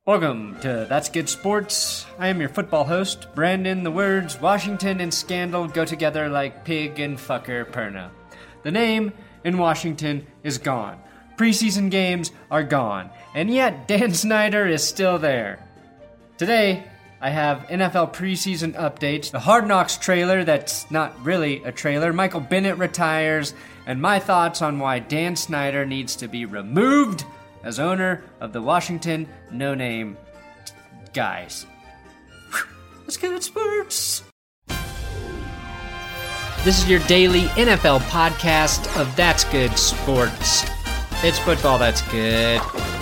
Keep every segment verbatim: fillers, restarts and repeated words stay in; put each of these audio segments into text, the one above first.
Welcome to That's Good Sports. I am your football host, Brandon. The words Washington and scandal go together like pig and fucker perna. The name in Washington is gone. Preseason games are gone. And yet Dan Snyder is still there. Today, I have N F L preseason updates, the Hard Knocks trailer that's not really a trailer, Michael Bennett retires, and my thoughts on why Dan Snyder needs to be removed as owner of the Washington no-name guys. Let's get at sports. This is your daily N F L podcast of That's Good Sports. It's football that's good.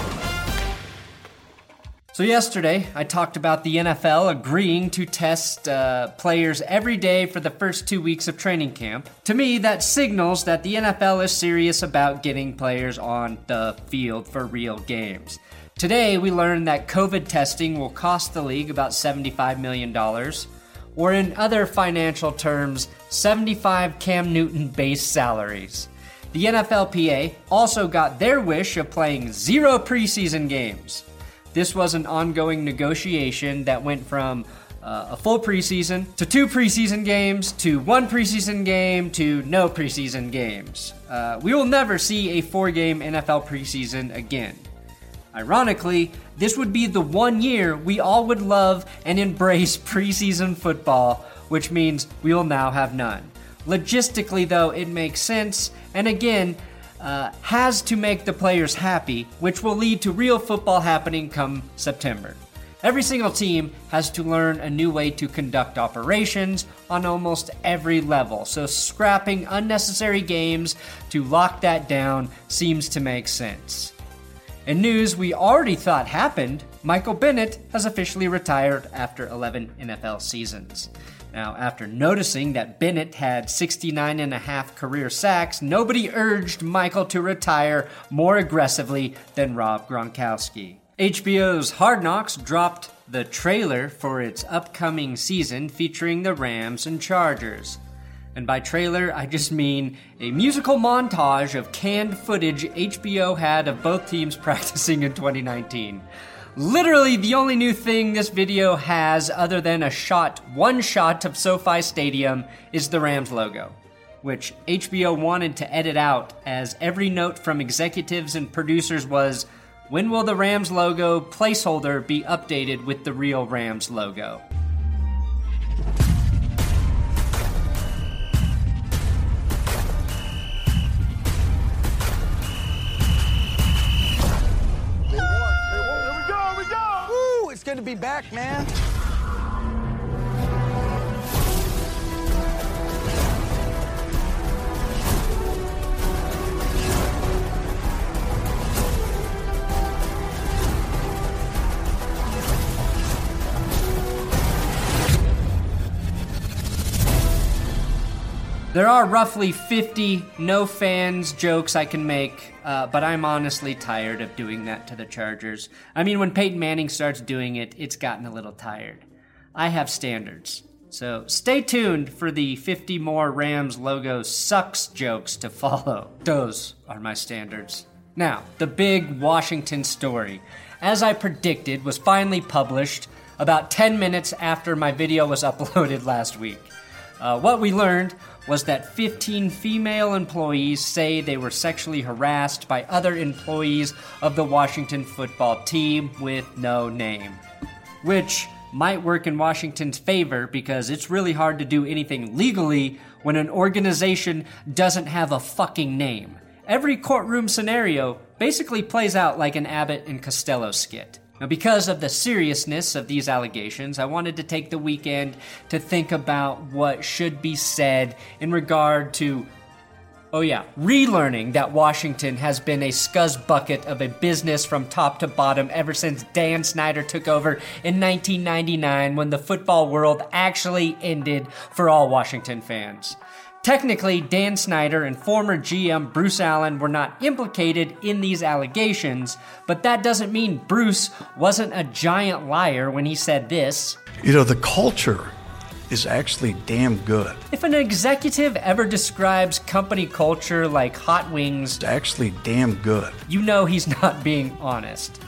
So yesterday, I talked about the N F L agreeing to test uh, players every day for the first two weeks of training camp. To me, that signals that the N F L is serious about getting players on the field for real games. Today, we learned that COVID testing will cost the league about seventy-five million dollars, or in other financial terms, seventy-five Cam Newton base salaries. The N F L P A also got their wish of playing zero preseason games. This was an ongoing negotiation that went from uh, a full preseason to two preseason games to one preseason game to no preseason games. Uh, we will never see a four-game N F L preseason again. Ironically, this would be the one year we all would love and embrace preseason football, which means we will now have none. Logistically, though, it makes sense, and again, Uh, has to make the players happy, which will lead to real football happening come September. Every single team has to learn a new way to conduct operations on almost every level, so scrapping unnecessary games to lock that down seems to make sense. In news we already thought happened, Michael Bennett has officially retired after eleven N F L seasons. Now, after noticing that Bennett had sixty-nine and a half career sacks, nobody urged Michael to retire more aggressively than Rob Gronkowski. H B O's Hard Knocks dropped the trailer for its upcoming season featuring the Rams and Chargers. And by trailer, I just mean a musical montage of canned footage H B O had of both teams practicing in twenty nineteen. Literally the only new thing this video has other than a shot, one shot of SoFi Stadium is the Rams logo, which H B O wanted to edit out as every note from executives and producers was, when will the Rams logo placeholder be updated with the real Rams logo? It's good to be back, man. There are roughly fifty no fans jokes I can make, uh, but I'm honestly tired of doing that to the Chargers. I mean, when Peyton Manning starts doing it, it's gotten a little tired. I have standards. So stay tuned for the fifty more Rams logo sucks jokes to follow. Those are my standards. Now, the big Washington story, as I predicted, was finally published about ten minutes after my video was uploaded last week. Uh, what we learned was that fifteen female employees say they were sexually harassed by other employees of the Washington football team with no name, which might work in Washington's favor because it's really hard to do anything legally when an organization doesn't have a fucking name. Every courtroom scenario basically plays out like an Abbott and Costello skit. Now, because of the seriousness of these allegations, I wanted to take the weekend to think about what should be said in regard to, oh yeah, relearning that Washington has been a scuzz bucket of a business from top to bottom ever since Dan Snyder took over in nineteen ninety-nine when the football world actually ended for all Washington fans. Technically, Dan Snyder and former G M Bruce Allen were not implicated in these allegations, but that doesn't mean Bruce wasn't a giant liar when he said this. You know, the culture is actually damn good. If an executive ever describes company culture like hot wings, It's actually damn good. you know he's not being honest.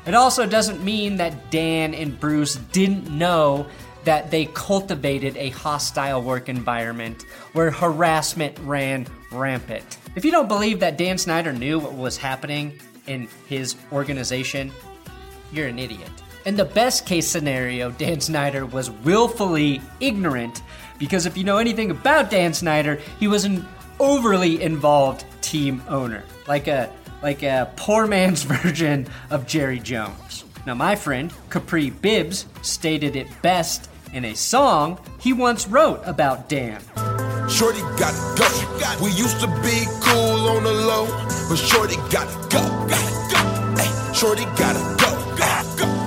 It also doesn't mean that Dan and Bruce didn't know that they cultivated a hostile work environment where harassment ran rampant. If you don't believe that Dan Snyder knew what was happening in his organization, you're an idiot. In the best case scenario, Dan Snyder was willfully ignorant, because if you know anything about Dan Snyder, he was an overly involved team owner, like a like a poor man's version of Jerry Jones. Now, my friend Capri Bibbs stated it best in a song he once wrote about Dan. Shorty gotta go. We used to be cool on the low, but Shorty gotta go. Gotta go. Ay, Shorty gotta go. Gotta go.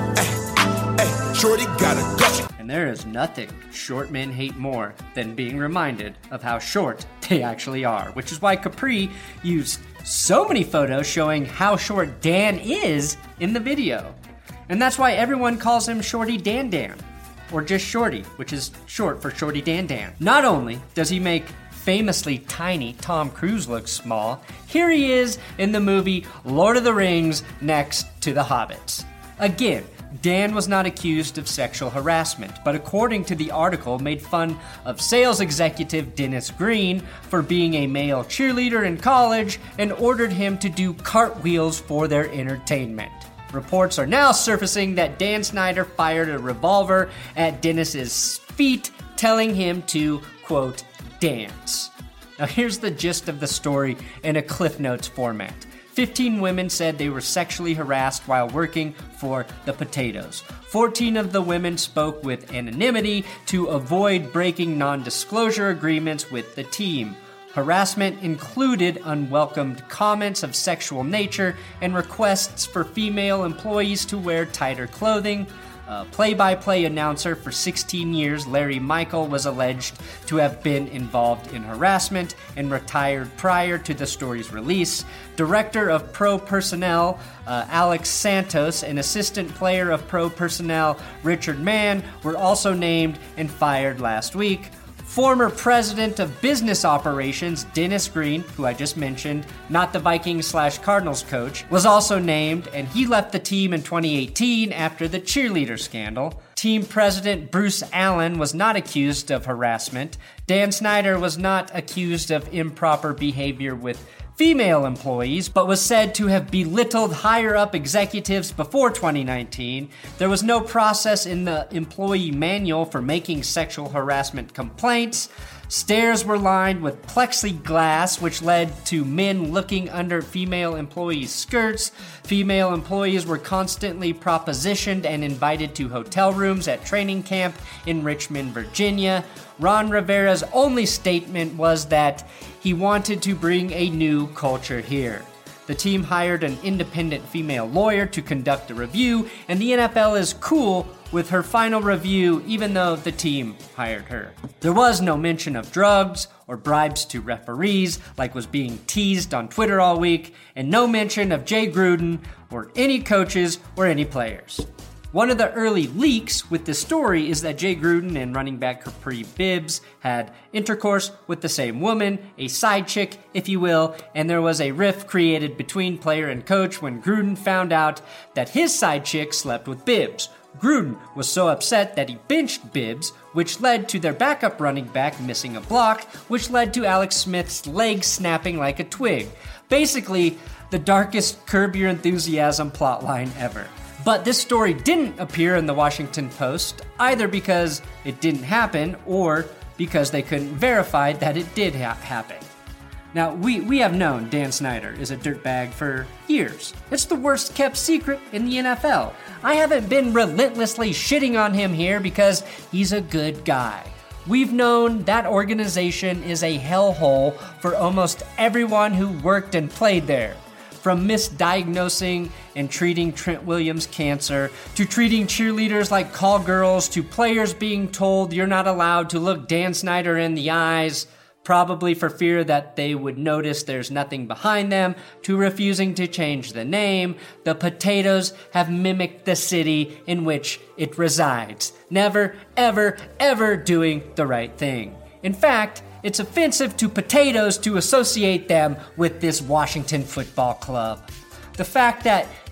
Ay, ay, Shorty gotta go. And there is nothing short men hate more than being reminded of how short they actually are, which is why Capri used so many photos showing how short Dan is in the video. And that's why everyone calls him Shorty Dan Dan, or just Shorty, which is short for Shorty Dan Dan. Not only does he make famously tiny Tom Cruise look small, here he is in the movie Lord of the Rings next to the Hobbits. Again, Dan was not accused of sexual harassment, but according to the article, made fun of sales executive Dennis Green for being a male cheerleader in college and ordered him to do cartwheels for their entertainment. Reports are now surfacing that Dan Snyder fired a revolver at Dennis's feet, telling him to, quote, dance. Now here's the gist of the story in a Cliff Notes format. fifteen women said they were sexually harassed while working for the Potatoes. fourteen of the women spoke with anonymity to avoid breaking non-disclosure agreements with the team. Harassment included unwelcomed comments of sexual nature and requests for female employees to wear tighter clothing. A play-by-play announcer for sixteen years, Larry Michael, was alleged to have been involved in harassment and retired prior to the story's release. Director of Pro Personnel, uh, Alex Santos, and assistant player of Pro Personnel, Richard Mann, were also named and fired last week. Former president of business operations, Dennis Green, who I just mentioned, not the Vikings slash Cardinals coach, was also named, and he left the team in twenty eighteen after the cheerleader scandal. Team president Bruce Allen was not accused of harassment. Dan Snyder was not accused of improper behavior with female employees, but was said to have belittled higher-up executives before twenty nineteen. There was no process in the employee manual for making sexual harassment complaints. Stairs were lined with plexiglass, which led to men looking under female employees' skirts. Female employees were constantly propositioned and invited to hotel rooms at training camp in Richmond, Virginia. Ron Rivera's only statement was that he wanted to bring a new culture here. The team hired an independent female lawyer to conduct a review, and the N F L is cool with her final review, even though the team hired her. There was no mention of drugs or bribes to referees, like was being teased on Twitter all week, and no mention of Jay Gruden or any coaches or any players. One of the early leaks with the story is that Jay Gruden and running back Capri Bibbs had intercourse with the same woman, a side chick, if you will, and there was a rift created between player and coach when Gruden found out that his side chick slept with Bibbs. Gruden was so upset that he benched Bibbs, which led to their backup running back missing a block, which led to Alex Smith's leg snapping like a twig. Basically, the darkest Curb Your Enthusiasm plotline ever. But this story didn't appear in the Washington Post, either because it didn't happen or because they couldn't verify that it did ha- happen. Now, we, we have known Dan Snyder is a dirtbag for years. It's the worst kept secret in the N F L. I haven't been relentlessly shitting on him here because he's a good guy. We've known that organization is a hellhole for almost everyone who worked and played there. From misdiagnosing and treating Trent Williams' cancer, to treating cheerleaders like call girls, to players being told you're not allowed to look Dan Snyder in the eyes, probably for fear that they would notice there's nothing behind them, to refusing to change the name, the Potatoes have mimicked the city in which it resides, never, ever, ever doing the right thing. In fact, it's offensive to potatoes to associate them with this Washington football club. The fact that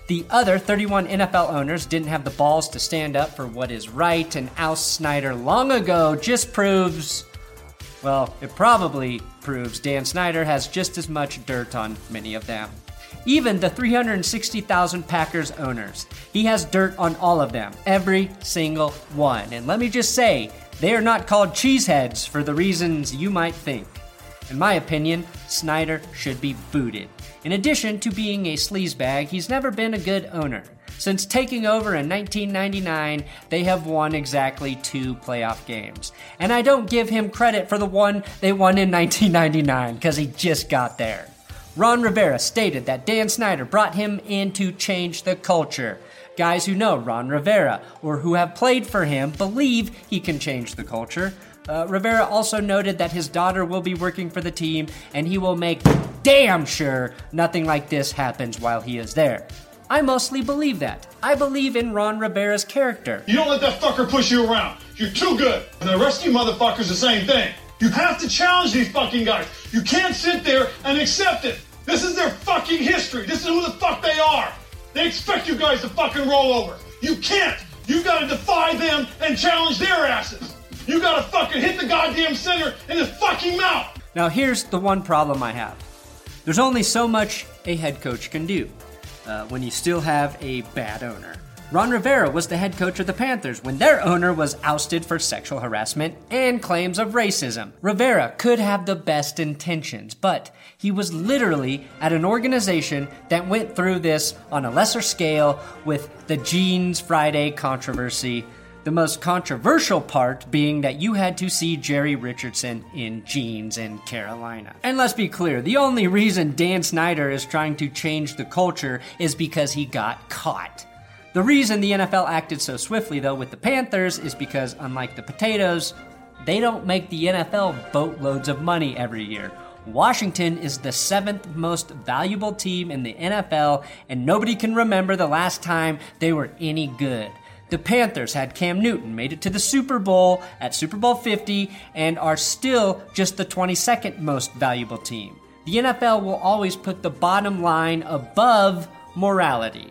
The other thirty-one N F L owners didn't have the balls to stand up for what is right and oust Snyder long ago just proves, well, it probably proves Dan Snyder has just as much dirt on many of them. Even the three hundred sixty thousand Packers owners, he has dirt on all of them, every single one. And let me just say, they are not called cheeseheads for the reasons you might think. In my opinion, Snyder should be booted. In addition to being a sleazebag, he's never been a good owner. Since taking over in nineteen ninety-nine, they have won exactly two playoff games. And I don't give him credit for the one they won in nineteen ninety-nine, because he just got there. Ron Rivera stated that Dan Snyder brought him in to change the culture. Guys who know Ron Rivera or who have played for him believe he can change the culture. Uh, Rivera also noted that his daughter will be working for the team and he will make damn sure nothing like this happens while he is there. I mostly believe that. I believe in Ron Rivera's character. You don't let that fucker push you around. You're too good. And the rest of you motherfuckers the same thing. You have to challenge these fucking guys. You can't sit there and accept it. This is their fucking history. This is who the fuck they are. They expect you guys to fucking roll over. You can't. You gotta defy them and challenge their asses. You gotta fucking hit the goddamn center in his fucking mouth. Now here's the one problem I have. There's only so much a head coach can do uh, when you still have a bad owner. Ron Rivera was the head coach of the Panthers when their owner was ousted for sexual harassment and claims of racism. Rivera could have the best intentions, but he was literally at an organization that went through this on a lesser scale with the Jeans Friday controversy. The most controversial part being that you had to see Jerry Richardson in jeans in Carolina. And let's be clear, the only reason Dan Snyder is trying to change the culture is because he got caught. The reason the N F L acted so swiftly, though, with the Panthers is because, unlike the Potatoes, they don't make the N F L boatloads of money every year. Washington is the seventh most valuable team in the N F L, and nobody can remember the last time they were any good. The Panthers had Cam Newton, made it to the Super Bowl at Super Bowl fifty, and are still just the twenty-second most valuable team. The N F L will always put the bottom line above morality,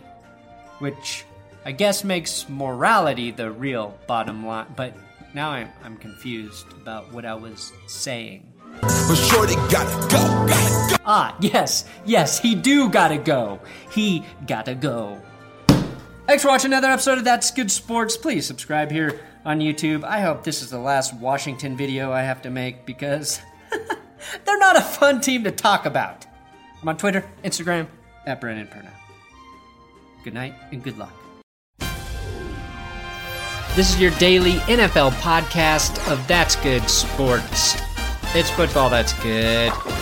which I guess makes morality the real bottom line, but now I'm, I'm confused about what I was saying. But shorty gotta go, gotta go. Ah, yes, yes, he do gotta go. He gotta go. Thanks for watching another episode of That's Good Sports. Please subscribe here on YouTube. I hope this is the last Washington video I have to make because they're not a fun team to talk about. I'm on Twitter, Instagram, at Brennan Perna. Good night and good luck. This is your daily N F L podcast of That's Good Sports. It's football that's good.